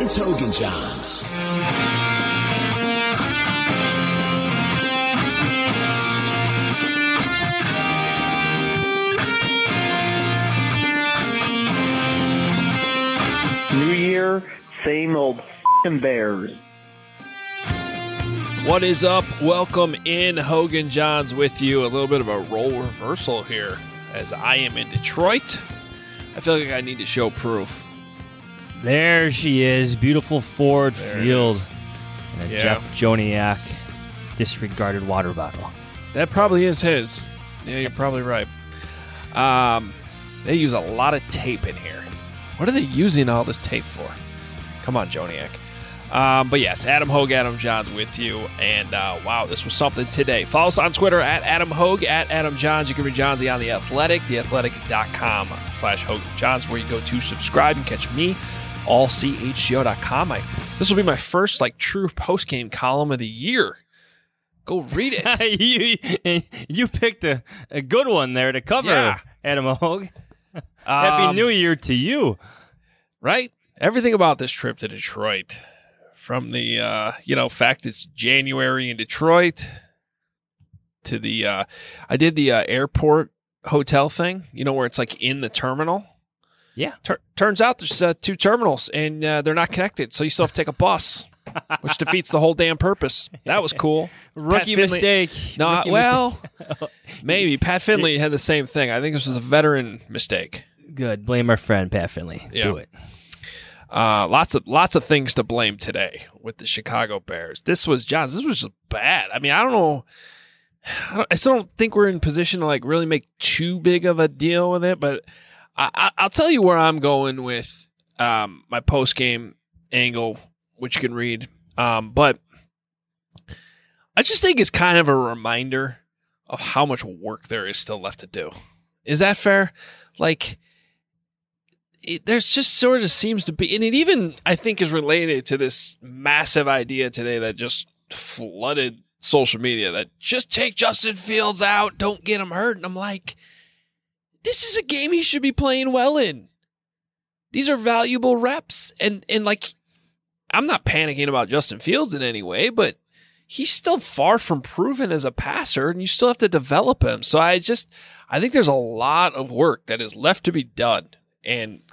It's Hogan Johns. New Year, same old f***ing Bears. What is up? Welcome in. Hogan Johns with you. A little bit of a role reversal here as I am in Detroit. I feel like I need to show proof. There she is. Beautiful Ford Field. And a Jeff Joniak disregarded water bottle. That probably is his. Yeah, you're probably right. They use a lot of tape in here. What are they using all this tape for? Come on, Joniak. But yes, Adam Hogue, Adam Johns with you. And wow, this was something today. Follow us on Twitter at Adam Hogue, at Adam Johns. You can read Johnsy on The Athletic, theathletic.com/Hogan Johns, where you go to subscribe and catch me, allchgo.com. This will be my first true post-game column of the year. Go read it. you picked a good one there to cover, Adam Hogue. Happy New Year to you. Right? Everything about this trip to Detroit, from the fact it's January in Detroit to the I did the airport hotel thing, where it's in the terminal. Yeah. Turns out there's two terminals and they're not connected, so you still have to take a bus, which defeats the whole damn purpose. That was cool. Rookie mistake. No, maybe Pat Finley had the same thing. I think this was a veteran mistake. Good. Blame our friend Pat Finley. Yeah. Do it. Lots of things to blame today with the Chicago Bears. This was just bad. I mean, I don't know. I still don't think we're in position to really make too big of a deal with it, but I'll tell you where I'm going with my post game angle, which you can read. But I just think it's kind of a reminder of how much work there is still left to do. Is that fair? There's just sort of seems to be, and it even, I think, is related to this massive idea today that just flooded social media that just take Justin Fields out, don't get him hurt. And I'm like, this is a game he should be playing well in. These are valuable reps. And I'm not panicking about Justin Fields in any way, but he's still far from proven as a passer, and you still have to develop him. So I think there's a lot of work that is left to be done. And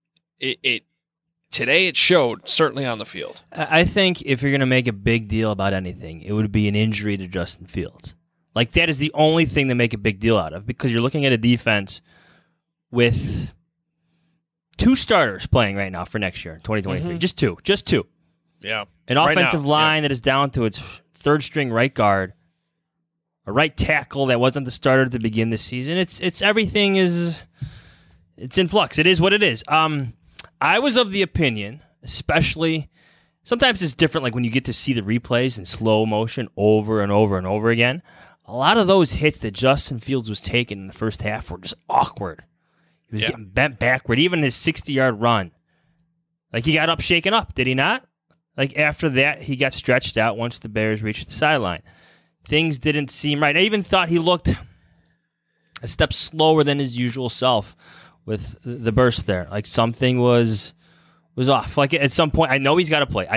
today it showed, certainly on the field. I think if you're going to make a big deal about anything, it would be an injury to Justin Fields. That is the only thing to make a big deal out of, because you're looking at a defense with two starters playing right now for next year, 2023. Mm-hmm. Just two. Yeah. An offensive line that is down to its third-string right guard, a right tackle that wasn't the starter to begin this season. It's everything is... It's in flux. It is what it is. I was of the opinion, especially, sometimes it's different, when you get to see the replays in slow motion over and over and over again. A lot of those hits that Justin Fields was taking in the first half were just awkward. He was getting bent backward. Even his 60-yard run. He got up shaken up, did he not? After that, he got stretched out once the Bears reached the sideline. Things didn't seem right. I even thought he looked a step slower than his usual self with the burst there. Something was off. At some point, I know he's got to play.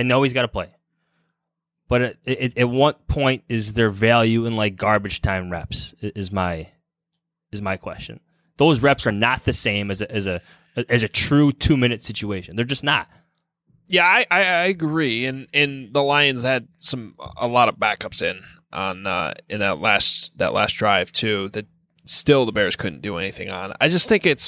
But at what point is there value in garbage time reps? Is my question. Those reps are not the same as a true 2-minute situation. They're just not. Yeah, I agree. And the Lions had a lot of backups in that last drive too, that still the Bears couldn't do anything on. I just think it's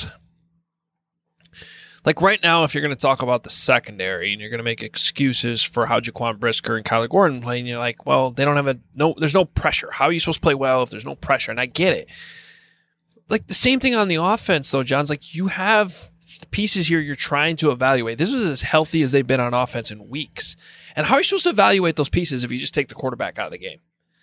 right now, if you're going to talk about the secondary and you're going to make excuses for how Jaquan Brisker and Kyler Gordon play, and you're like, well, they don't have there's no pressure. How are you supposed to play well if there's no pressure? And I get it. The same thing on the offense, though, John's you have pieces here you're trying to evaluate. This was as healthy as they've been on offense in weeks. And how are you supposed to evaluate those pieces if you just take the quarterback out of the game?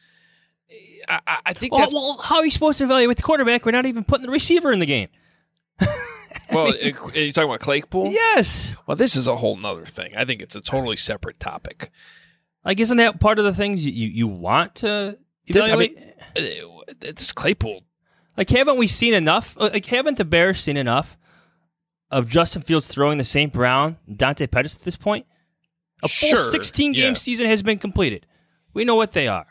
I think that's... Well, how are you supposed to evaluate the quarterback? We're not even putting the receiver in the game. Well, are you talking about Claypool? Yes. Well, this is a whole nother thing. I think it's a totally separate topic. Isn't that part of the things you want to evaluate? This Claypool. Haven't we seen enough? Haven't the Bears seen enough of Justin Fields throwing to St. Brown, Dante Pettis at this point? A full 16-game season has been completed. We know what they are.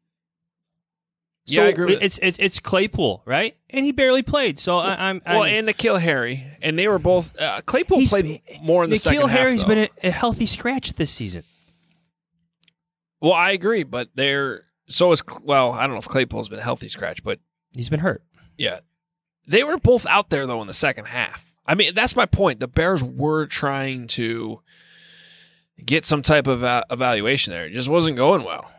So I agree with it's Claypool, right? And he barely played. So I'm and N'Keal Harry, and they were both. Claypool played more in the second half. N'Keal Harry's been a healthy scratch this season. Well, I agree, but I don't know if Claypool's been a healthy scratch, but he's been hurt. Yeah, they were both out there though in the second half. I mean, that's my point. The Bears were trying to get some type of evaluation there. It just wasn't going well.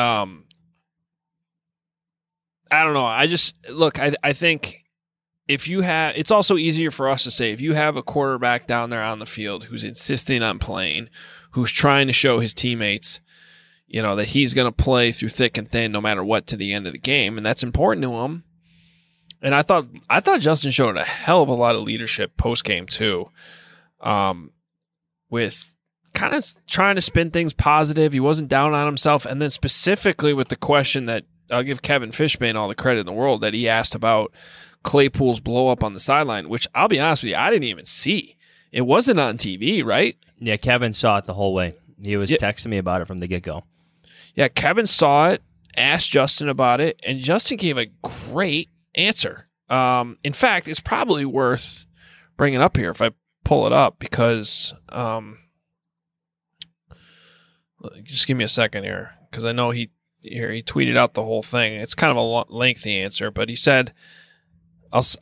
I don't know. I think if you have, it's also easier for us to say if you have a quarterback down there on the field who's insisting on playing, who's trying to show his teammates, that he's going to play through thick and thin no matter what to the end of the game, and that's important to him. And I thought Justin showed a hell of a lot of leadership post game too, with kind of trying to spin things positive. He wasn't down on himself, and then specifically with the question that I'll give Kevin Fishbane all the credit in the world that he asked about Claypool's blow up on the sideline, which I'll be honest with you, I didn't even see. It wasn't on TV, right? Yeah, Kevin saw it the whole way. He was texting me about it from the get-go. Yeah, Kevin saw it, asked Justin about it, and Justin gave a great answer. In fact, it's probably worth bringing up here if I pull it up because just give me a second here because I know he tweeted out the whole thing. It's kind of a lengthy answer, but he said, let's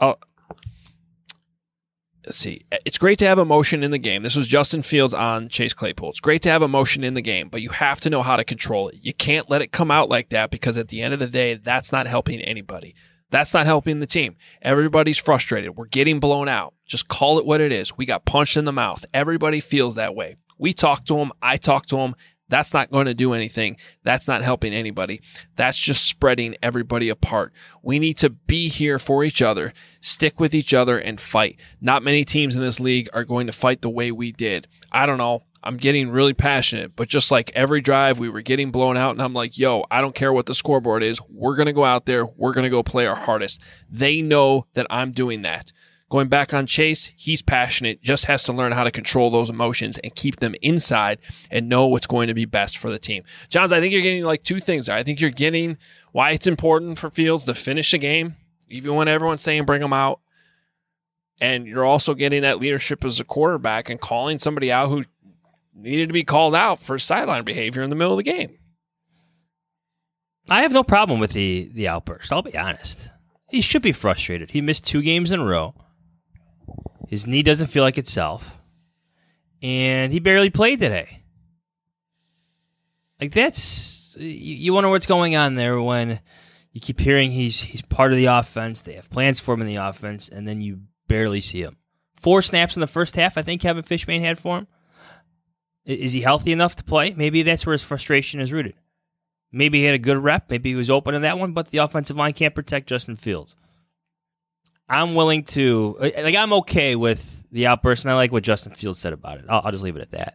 see. It's great to have emotion in the game. This was Justin Fields on Chase Claypool. It's great to have emotion in the game, but you have to know how to control it. You can't let it come out like that because at the end of the day, that's not helping anybody. That's not helping the team. Everybody's frustrated. We're getting blown out. Just call it what it is. We got punched in the mouth. Everybody feels that way. We talked to him. I talked to him. That's not going to do anything. That's not helping anybody. That's just spreading everybody apart. We need to be here for each other, stick with each other, and fight. Not many teams in this league are going to fight the way we did. I don't know. I'm getting really passionate, but just like every drive, we were getting blown out, and I'm like, yo, I don't care what the scoreboard is. We're going to go out there. We're going to go play our hardest. They know that I'm doing that. Going back on Chase, he's passionate, just has to learn how to control those emotions and keep them inside and know what's going to be best for the team. Johns, I think you're getting like two things there. I think you're getting why it's important for Fields to finish the game, even when everyone's saying bring him out. And you're also getting that leadership as a quarterback and calling somebody out who needed to be called out for sideline behavior in the middle of the game. I have no problem with the outburst, I'll be honest. He should be frustrated. He missed 2 games in a row. His knee doesn't feel like itself. And he barely played today. Like, that's... You wonder what's going on there when you keep hearing he's part of the offense, they have plans for him in the offense, and then you barely see him. 4 snaps in the first half, I think Kevin Fishbane had for him. Is he healthy enough to play? Maybe that's where his frustration is rooted. Maybe he had a good rep. Maybe he was open in that one, but the offensive line can't protect Justin Fields. I'm willing to... I'm okay with the outburst, and I like what Justin Fields said about it. I'll just leave it at that.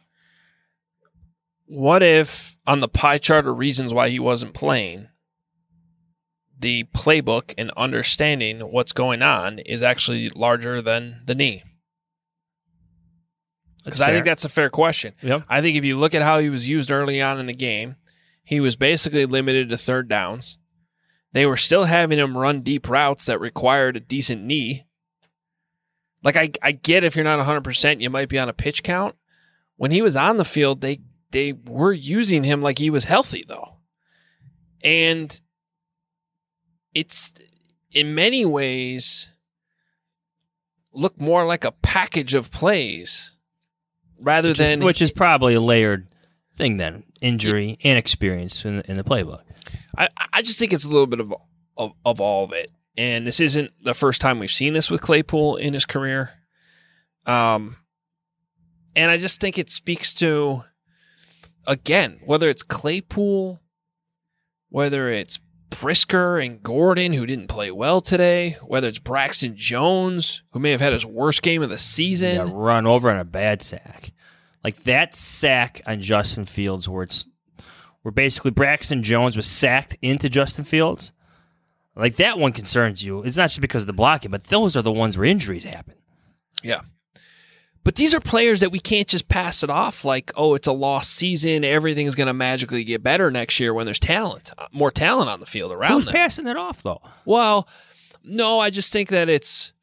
What if, on the pie chart of reasons why he wasn't playing, the playbook and understanding what's going on is actually larger than the knee? Because I think that's a fair question. Yep. I think if you look at how he was used early on in the game, he was basically limited to third downs. They were still having him run deep routes that required a decent knee. Like, I get if you're not 100%, you might be on a pitch count. When he was on the field, they were using him like he was healthy, though. And it's, in many ways, looked more like a package of plays rather than... Which is probably a layered thing then, injury and experience in the playbook. I just think it's a little bit of all of it. And this isn't the first time we've seen this with Claypool in his career. And I just think it speaks to, again, whether it's Claypool, whether it's Brisker and Gordon, who didn't play well today, whether it's Braxton Jones, who may have had his worst game of the season. Yeah, run over on a bad sack. Like that sack on Justin Fields where basically Braxton Jones was sacked into Justin Fields. Like that one concerns you. It's not just because of the blocking, but those are the ones where injuries happen. Yeah. But these are players that we can't just pass it off like, oh, it's a lost season. Everything's going to magically get better next year when there's more talent on the field around Who's them. passing it off, though? Well, no, I just think that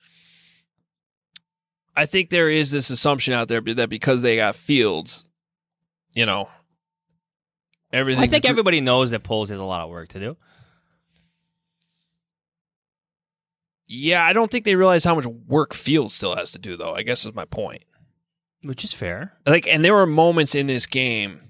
I think there is this assumption out there that because they got Fields, everything. I think everybody knows that Poles has a lot of work to do. Yeah, I don't think they realize how much work Fields still has to do, though, I guess is my point. Which is fair. And there were moments in this game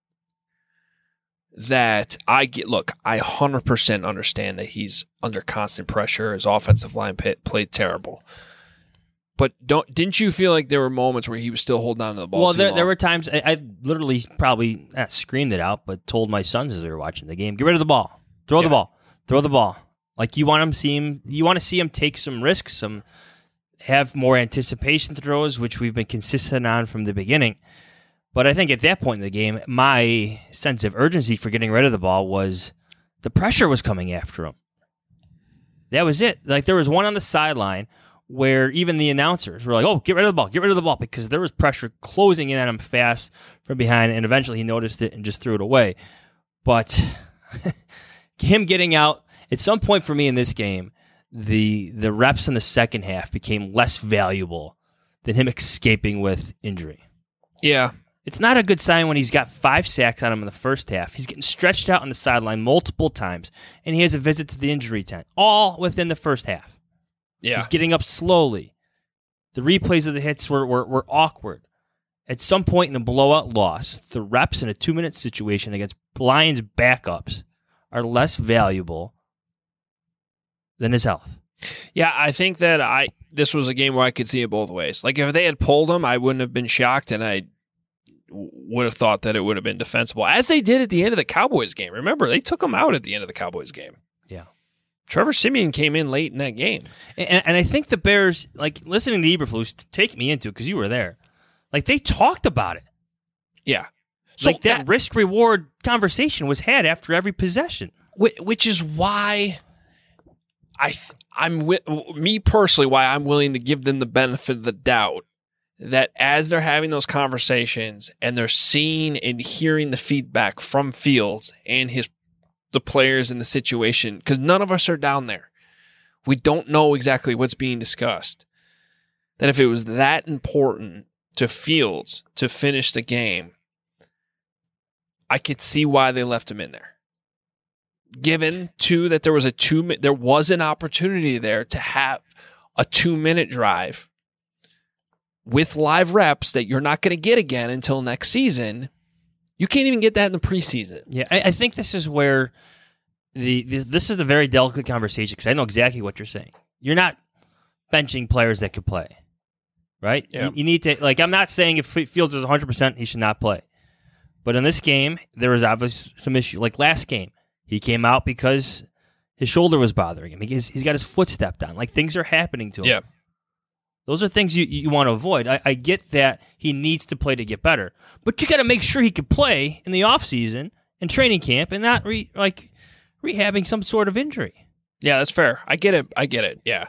that I 100% understand that he's under constant pressure. His offensive line played terrible. But didn't you feel like there were moments where he was still holding on to the ball? Well, there were times I literally probably not screamed it out, but told my sons as they were watching the game, get rid of the ball. Throw the ball. Like you want to see him take some risks, have more anticipation throws, which we've been consistent on from the beginning. But I think at that point in the game, my sense of urgency for getting rid of the ball was the pressure was coming after him. That was it. Like there was one on the sideline where even the announcers were like, oh, get rid of the ball, because there was pressure closing in on him fast from behind, and eventually he noticed it and just threw it away. But him getting out, at some point for me in this game, the reps in the second half became less valuable than him escaping with injury. Yeah. It's not a good sign when he's got 5 sacks on him in the first half. He's getting stretched out on the sideline multiple times, and he has a visit to the injury tent, all within the first half. Yeah. He's getting up slowly. The replays of the hits were awkward. At some point in a blowout loss, the reps in a 2-minute situation against Lions backups are less valuable than his health. Yeah, I think that this was a game where I could see it both ways. Like if they had pulled him, I wouldn't have been shocked, and I would have thought that it would have been defensible, as they did at the end of the Cowboys game. Remember, they took him out at the end of the Cowboys game. Yeah. Trevor Siemian came in late in that game. And I think the Bears, like listening to Eberflus, take me into it because you were there, like they talked about it. Yeah. So like that risk-reward conversation was had after every possession. Which is why me personally, why I'm willing to give them the benefit of the doubt that as they're having those conversations and they're seeing and hearing the feedback from Fields and the players in the situation, because none of us are down there. We don't know exactly what's being discussed. That if it was that important to Fields to finish the game, I could see why they left him in there. Given, too, that there was an opportunity there to have a 2-minute drive with live reps that you're not going to get again until next season. You can't even get that in the preseason. Yeah, I think this is where this is a very delicate conversation, because I know exactly what you're saying. You're not benching players that could play, right? Yeah. You need to, like, I'm not saying if Fields is 100%, he should not play. But in this game, there was obviously some issue. Like last game, he came out because his shoulder was bothering him. He's got his foot stepped on. Like things are happening to him. Yeah. Those are things you want to avoid. I get that he needs to play to get better, but you got to make sure he can play in the offseason and training camp and not rehabbing some sort of injury. Yeah, that's fair. I get it. Yeah.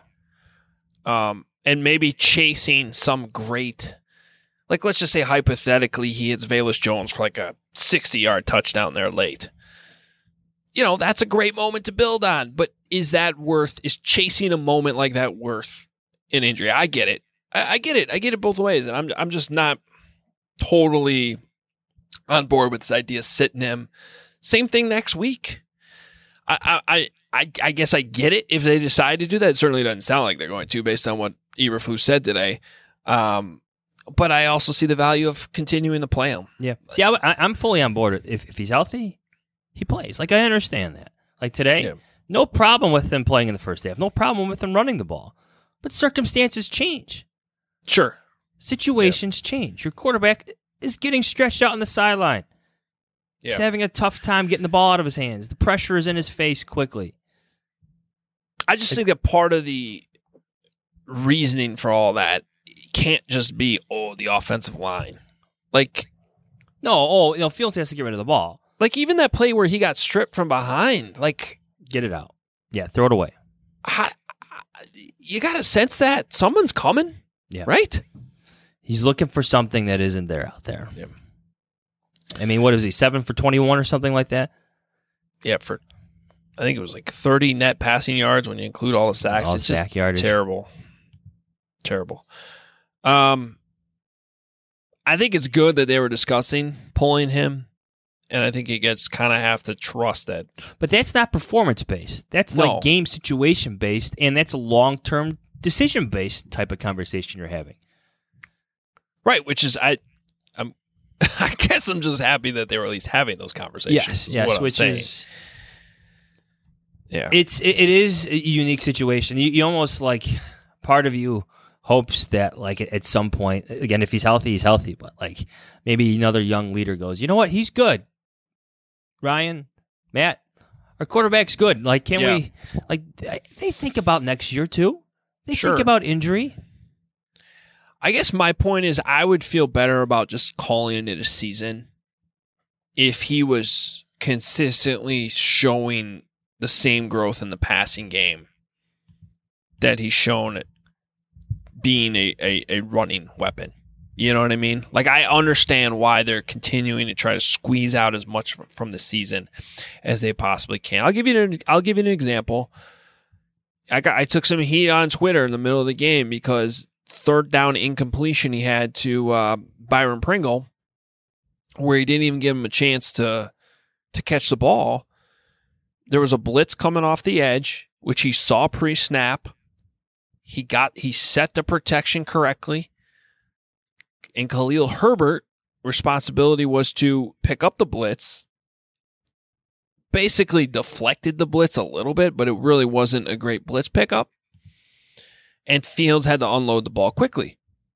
And maybe chasing some great, like let's just say hypothetically he hits Velus Jones for like a 60-yard touchdown there late. That's a great moment to build on, but is chasing a moment like that worth an injury? I get it. I get it. I get it both ways, and I'm just not totally on board with this idea of sitting him. Same thing next week. I guess I get it if they decide to do that. It certainly doesn't sound like they're going to, based on what Eberflus said today. But I also see the value of continuing to play him. Yeah. See, I'm fully on board. If he's healthy, he plays. Like, I understand that. Like today, no problem with him playing in the first half. No problem with him running the ball. But circumstances change. Sure. Situations change. Your quarterback is getting stretched out on the sideline. He's having a tough time getting the ball out of his hands. The pressure is in his face quickly. I just think that part of the reasoning for all that can't just be, the offensive line. Like, no, Fields has to get rid of the ball. Like, even that play where he got stripped from behind, like... Get it out. Yeah, throw it away. You got to sense that someone's coming, right? He's looking for something that isn't there out there. Yep. I mean, what is he, 7 for 21 or something like that? Yeah, I think it was like 30 net passing yards when you include all the sacks. All it's the sack just yardage. terrible. I think it's good that they were discussing pulling him, and I think you guys kind of have to trust that. But that's not performance-based. That's No. like game situation-based, and that's a long-term decision-based type of conversation you're having. Right, which is I guess I'm just happy that they were at least having those conversations. Yes, what I'm which saying. is Yeah. it is a unique situation. You almost like part of you hopes that like at some point, again, if he's healthy, but like maybe another young leader goes, you know what, he's good. Ryan, Matt, our quarterback's good. Like, can we like they think about next year too? They Sure. think about injury. I guess my point is I would feel better about just calling it a season if he was consistently showing the same growth in the passing game that he's shown at being a running weapon. You know what I mean? Like, I understand why they're continuing to try to squeeze out as much from the season as they possibly can. I'll give you an example. I took some heat on Twitter in the middle of the game because third down incompletion he had to Byron Pringle, where he didn't even give him a chance to catch the ball. There was a blitz coming off the edge, which he saw pre-snap. He set the protection correctly. And Khalil Herbert responsibility was to pick up the blitz. Basically deflected the blitz a little bit, but it really wasn't a great blitz pickup. And Fields had to unload the ball quickly.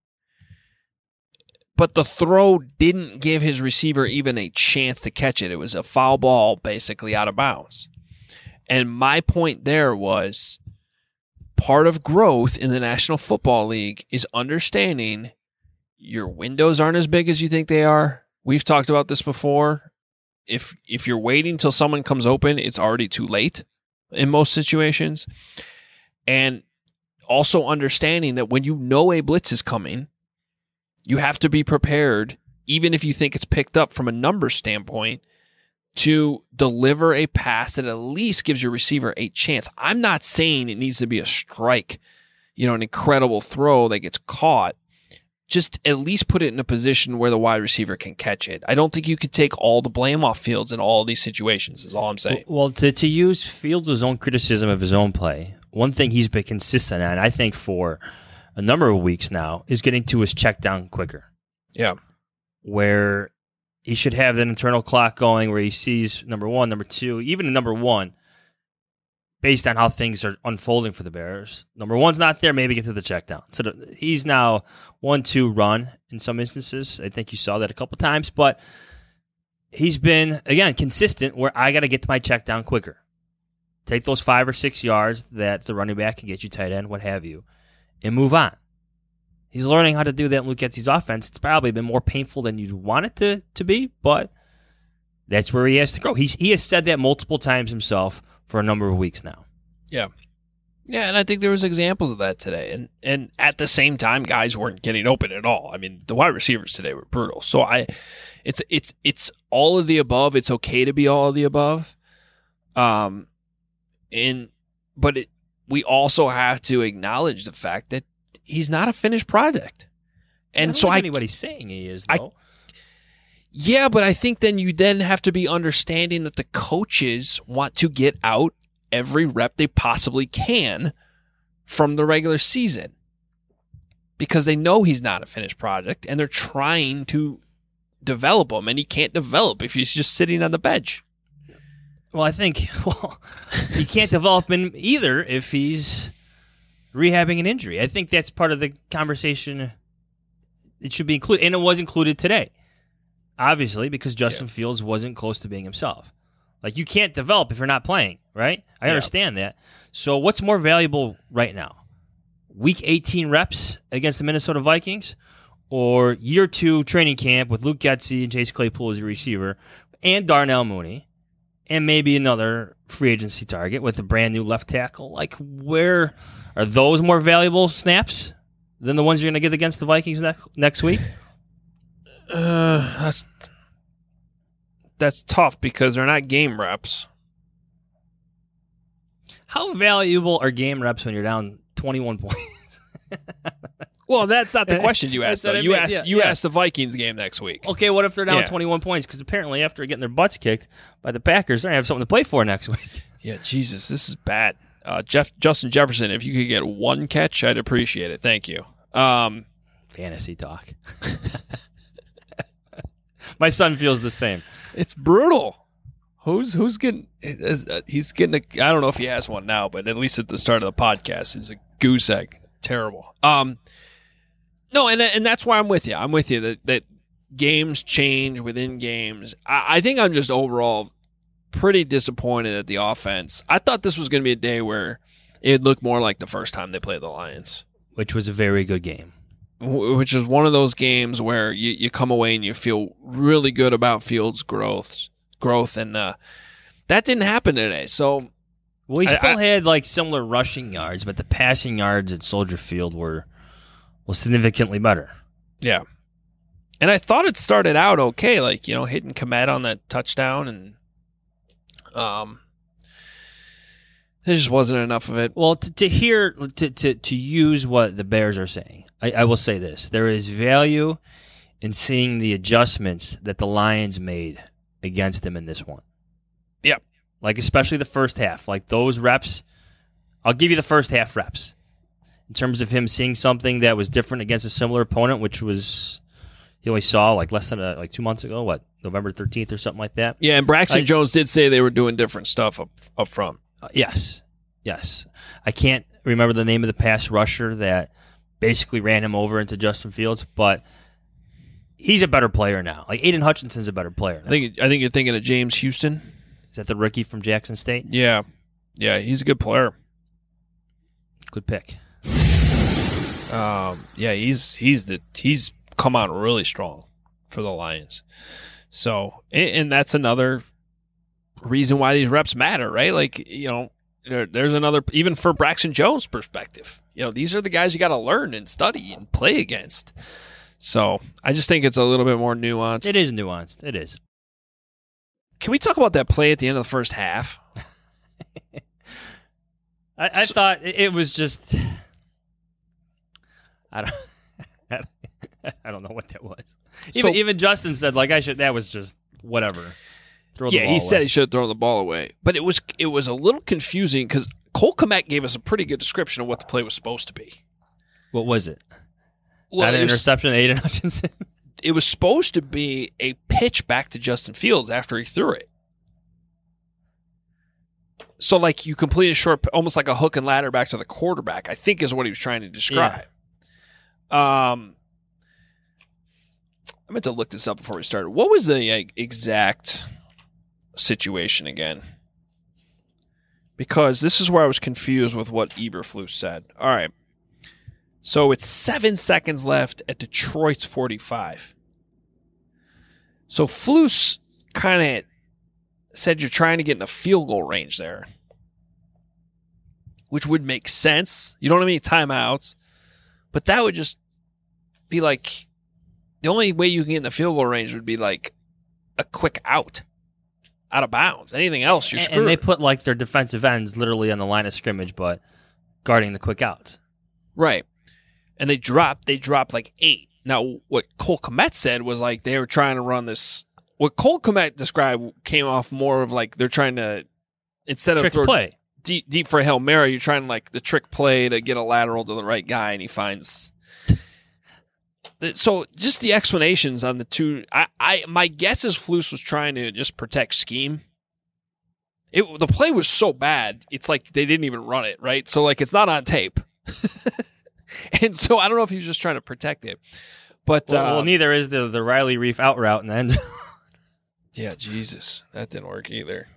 But the throw didn't give his receiver even a chance to catch it. It was a foul ball basically out of bounds. And my point there was part of growth in the National Football League is understanding your windows aren't as big as you think they are. We've talked about this before. If you're waiting till someone comes open, it's already too late in most situations. And also understanding that when you know a blitz is coming, you have to be prepared, even if you think it's picked up from a numbers standpoint, to deliver a pass that at least gives your receiver a chance. I'm not saying it needs to be a strike, an incredible throw that gets caught. Just at least put it in a position where the wide receiver can catch it. I don't think you could take all the blame off Fields in all of these situations, is all I'm saying. Well, to use Fields' own criticism of his own play, one thing he's been consistent on, I think for a number of weeks now, is getting to his check down quicker. Yeah. Where he should have that internal clock going where he sees number one, number two, even number one, based on how things are unfolding for the Bears. Number one's not there, maybe get to the check down. So he's now 1-2 run in some instances. I think you saw that a couple times, but he's been, again, consistent where I got to get to my check down quicker. Take those 5 or 6 yards that the running back can get you, tight end, what have you, and move on. He's learning how to do that in Luke Getsy's offense. It's probably been more painful than you'd want it to be, but that's where he has to grow. He has said that multiple times himself for a number of weeks now. Yeah. Yeah, and I think there was examples of that today. And at the same time, guys weren't getting open at all. I mean, the wide receivers today were brutal. So it's all of the above. It's okay to be all of the above. We also have to acknowledge the fact that he's not a finished product. And I don't so think anybody's saying he is, though. Yeah, but I think then you have to be understanding that the coaches want to get out every rep they possibly can from the regular season because they know he's not a finished product and they're trying to develop him, and he can't develop if he's just sitting on the bench. Well, I think you can't develop him either if he's rehabbing an injury. I think that's part of the conversation. It should be included, and it was included today. Obviously, because Justin Fields wasn't close to being himself. Like, you can't develop if you're not playing, right? I understand that. So what's more valuable right now? Week 18 reps against the Minnesota Vikings or year 2 training camp with Luke Getsy and Chase Claypool as your receiver and Darnell Mooney and maybe another free agency target with a brand new left tackle? Like, where are those more valuable snaps than the ones you're going to get against the Vikings next week? That's tough because they're not game reps. How valuable are game reps when you're down 21 points? Well, that's not the question you asked, though. You asked the Vikings game next week. Okay, what if they're down 21 points? Because apparently after getting their butts kicked by the Packers, they're going to have something to play for next week. Yeah, Jesus, this is bad. Justin Jefferson, if you could get one catch, I'd appreciate it. Thank you. Fantasy talk. My son feels the same. It's brutal. Who's getting? He's getting. I don't know if he has one now, but at least at the start of the podcast, it's a goose egg. Terrible. No, and that's why I'm with you. I'm with you that games change within games. I think I'm just overall pretty disappointed at the offense. I thought this was going to be a day where it looked more like the first time they played the Lions, which was a very good game. Which is one of those games where you come away and you feel really good about Fields' growth, and that didn't happen today. So, well, he still had like similar rushing yards, but the passing yards at Soldier Field were significantly better. Yeah, and I thought it started out okay, like hitting Kmet on that touchdown, and there just wasn't enough of it. Well, to use what the Bears are saying. I will say this. There is value in seeing the adjustments that the Lions made against them in this one. Yep. Like, especially the first half. Like, those reps, I'll give you the first half reps. In terms of him seeing something that was different against a similar opponent, which was, he only saw, like, less than, 2 months ago, November 13th or something like that? Yeah, and Braxton Jones did say they were doing different stuff up front. Yes. I can't remember the name of the pass rusher that basically ran him over into Justin Fields, but he's a better player now. Like, Aiden Hutchinson's a better player now. I think you're thinking of James Houston. Is that the rookie from Jackson State? Yeah, he's a good player. Good pick. Yeah, he's come on really strong for the Lions. So, and that's another reason why these reps matter, right? Like, there's another, even for Braxton Jones' perspective. These are the guys you got to learn and study and play against. So I just think it's a little bit more nuanced. It is nuanced. It is. Can we talk about that play at the end of the first half? I thought it was just. I don't know what that was. Even Justin said, that was just whatever. Throw the ball away. Said he should have thrown the ball away. But it was a little confusing because Cole Kmet gave us a pretty good description of what the play was supposed to be. What was it? Well, an interception to Aiden Hutchinson? It was supposed to be a pitch back to Justin Fields after he threw it. So, you complete a short, almost like a hook and ladder back to the quarterback, I think is what he was trying to describe. Yeah. I meant to look this up before we started. What was the exact situation again? Because this is where I was confused with what Eberflus said. All right. So it's 7 seconds left at Detroit's 45. So Flus kind of said you're trying to get in the field goal range there, which would make sense. You don't have any timeouts, but that would just be like the only way you can get in the field goal range would be like a quick out of bounds. Anything else, you're screwed. And they put their defensive ends literally on the line of scrimmage, but guarding the quick outs. Right. And they dropped 8. Now, what Cole Kmet said was they were trying to run this. What Cole Kmet described came off more of they're trying to, instead trick of throw play deep for a Hail Mary, you're trying the trick play to get a lateral to the right guy, and he finds. So just the explanations on the two. My guess is Flus was trying to just protect scheme. The play was so bad, it's they didn't even run it, right? So it's not on tape. And so I don't know if he was just trying to protect it. But well, neither is the Riley Reef out route in the end zone. Yeah, Jesus. That didn't work either.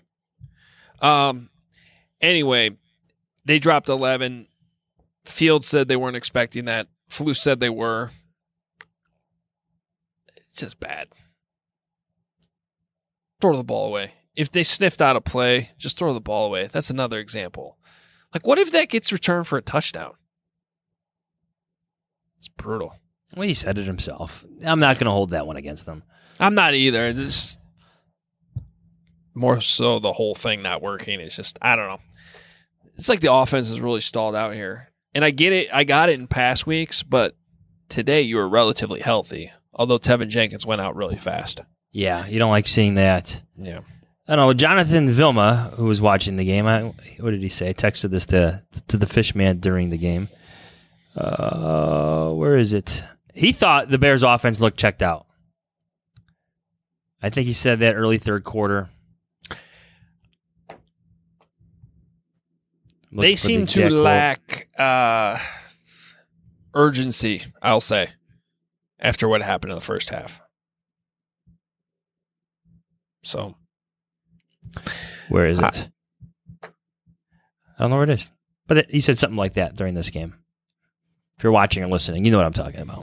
Anyway, they dropped 11. Fields said they weren't expecting that. Flus said they were. It's just bad. Throw the ball away. If they sniffed out a play, just throw the ball away. That's another example. What if that gets returned for a touchdown? It's brutal. Well, he said it himself. I'm not going to hold that one against him. I'm not either. Just more so the whole thing not working. It's just, I don't know. It's like the offense is really stalled out here. And I get it. I got it in past weeks, but today you were relatively healthy, although Tevin Jenkins went out really fast. Yeah, you don't like seeing that. Yeah. I don't know. Jonathan Vilma, who was watching the game, what did he say? I texted this to the Fishman during the game. Where is it? He thought the Bears' offense looked checked out. I think he said that early third quarter. They seem to lack urgency, I'll say, after what happened in the first half. So, where is it? I don't know where it is. But he said something like that during this game. If you're watching or listening, you know what I'm talking about.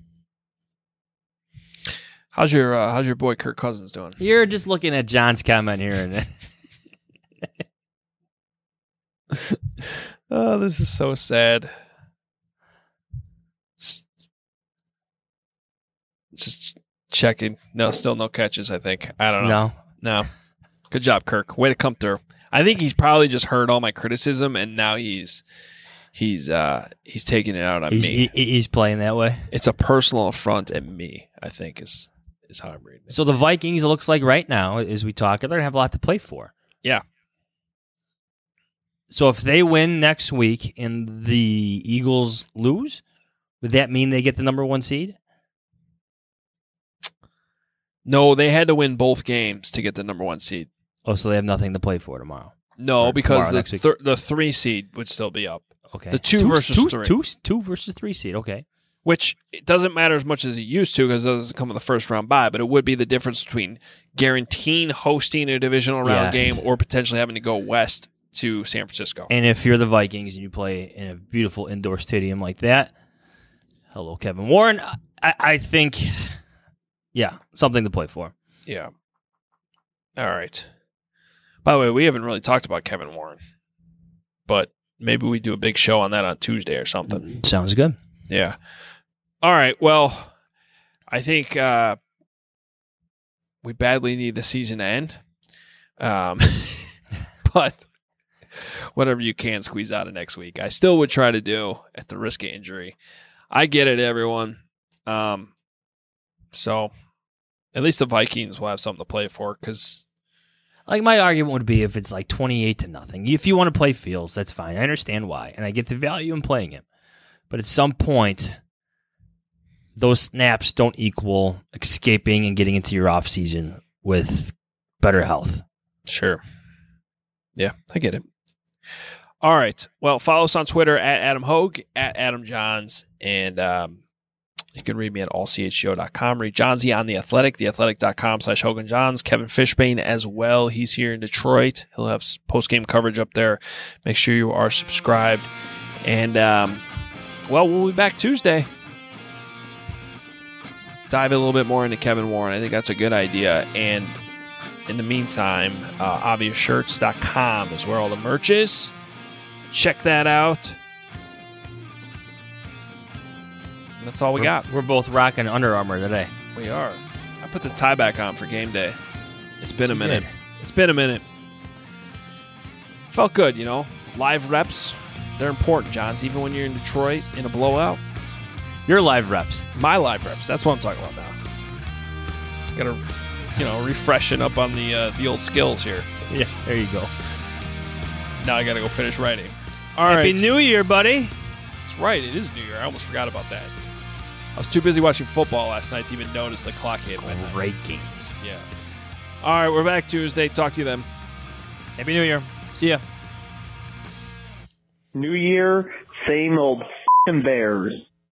How's your boy Kirk Cousins doing? You're just looking at John's comment here. And oh, this is so sad. Just checking. No, still no catches, I think. I don't know. No. Good job, Kirk. Way to come through. I think he's probably just heard all my criticism, and now he's taking it out on me. He's playing that way. It's a personal affront at me, I think, is how I'm reading it. So the Vikings, it looks like right now, as we talk, they're going to have a lot to play for. Yeah. So if they win next week and the Eagles lose, would that mean they get the number 1 seed? No, they had to win both games to get the number 1 seed. Oh, so they have nothing to play for tomorrow? No, because tomorrow, the 3 seed would still be up. Okay. The 2 versus 3. 2 versus 3 seed, okay. Which it doesn't matter as much as it used to because it doesn't come in the first round bye, but it would be the difference between guaranteeing hosting a divisional round game or potentially having to go west to San Francisco. And if you're the Vikings and you play in a beautiful indoor stadium like that, hello, Kevin Warren, I think, yeah, something to play for. Yeah. All right. By the way, we haven't really talked about Kevin Warren, but maybe we do a big show on that on Tuesday or something. Sounds good. Yeah. All right. Well, I think we badly need the season to end. But whatever you can squeeze out of next week, I still would try to do at the risk of injury. I get it, everyone. So at least the Vikings will have something to play for because. Like my argument would be if it's like 28-0. If you want to play Fields, that's fine. I understand why, and I get the value in playing him. But at some point, those snaps don't equal escaping and getting into your off season with better health. Sure. Yeah, I get it. All right. Well, follow us on Twitter at Adam Hogue, at Adam Johns, and you can read me at allchgo.com. Read Johnsy on The Athletic, theathletic.com/Hogan Johns. Kevin Fishbane as well. He's here in Detroit. He'll have post-game coverage up there. Make sure you are subscribed. And, well, we'll be back Tuesday. Dive a little bit more into Kevin Warren. I think that's a good idea. And in the meantime, obviousshirts.com is where all the merch is. Check that out. And that's all we got. We're both rocking Under Armour today. We are. I put the tie back on for game day. It's been a minute. Did. It's been a minute. Felt good, you know. Live reps, they're important, Johns, even when you're in Detroit in a blowout. Your live reps. My live reps. That's what I'm talking about now. Got to, refreshing up on the old skills here. Yeah, there you go. Now I got to go finish writing. All Happy right. New Year, buddy. That's right. It is New Year. I almost forgot about that. I was too busy watching football last night to even notice the clock hit midnight. Great games. Yeah. All right, we're back Tuesday. Talk to you then. Happy New Year. See ya. New Year, same old Bears.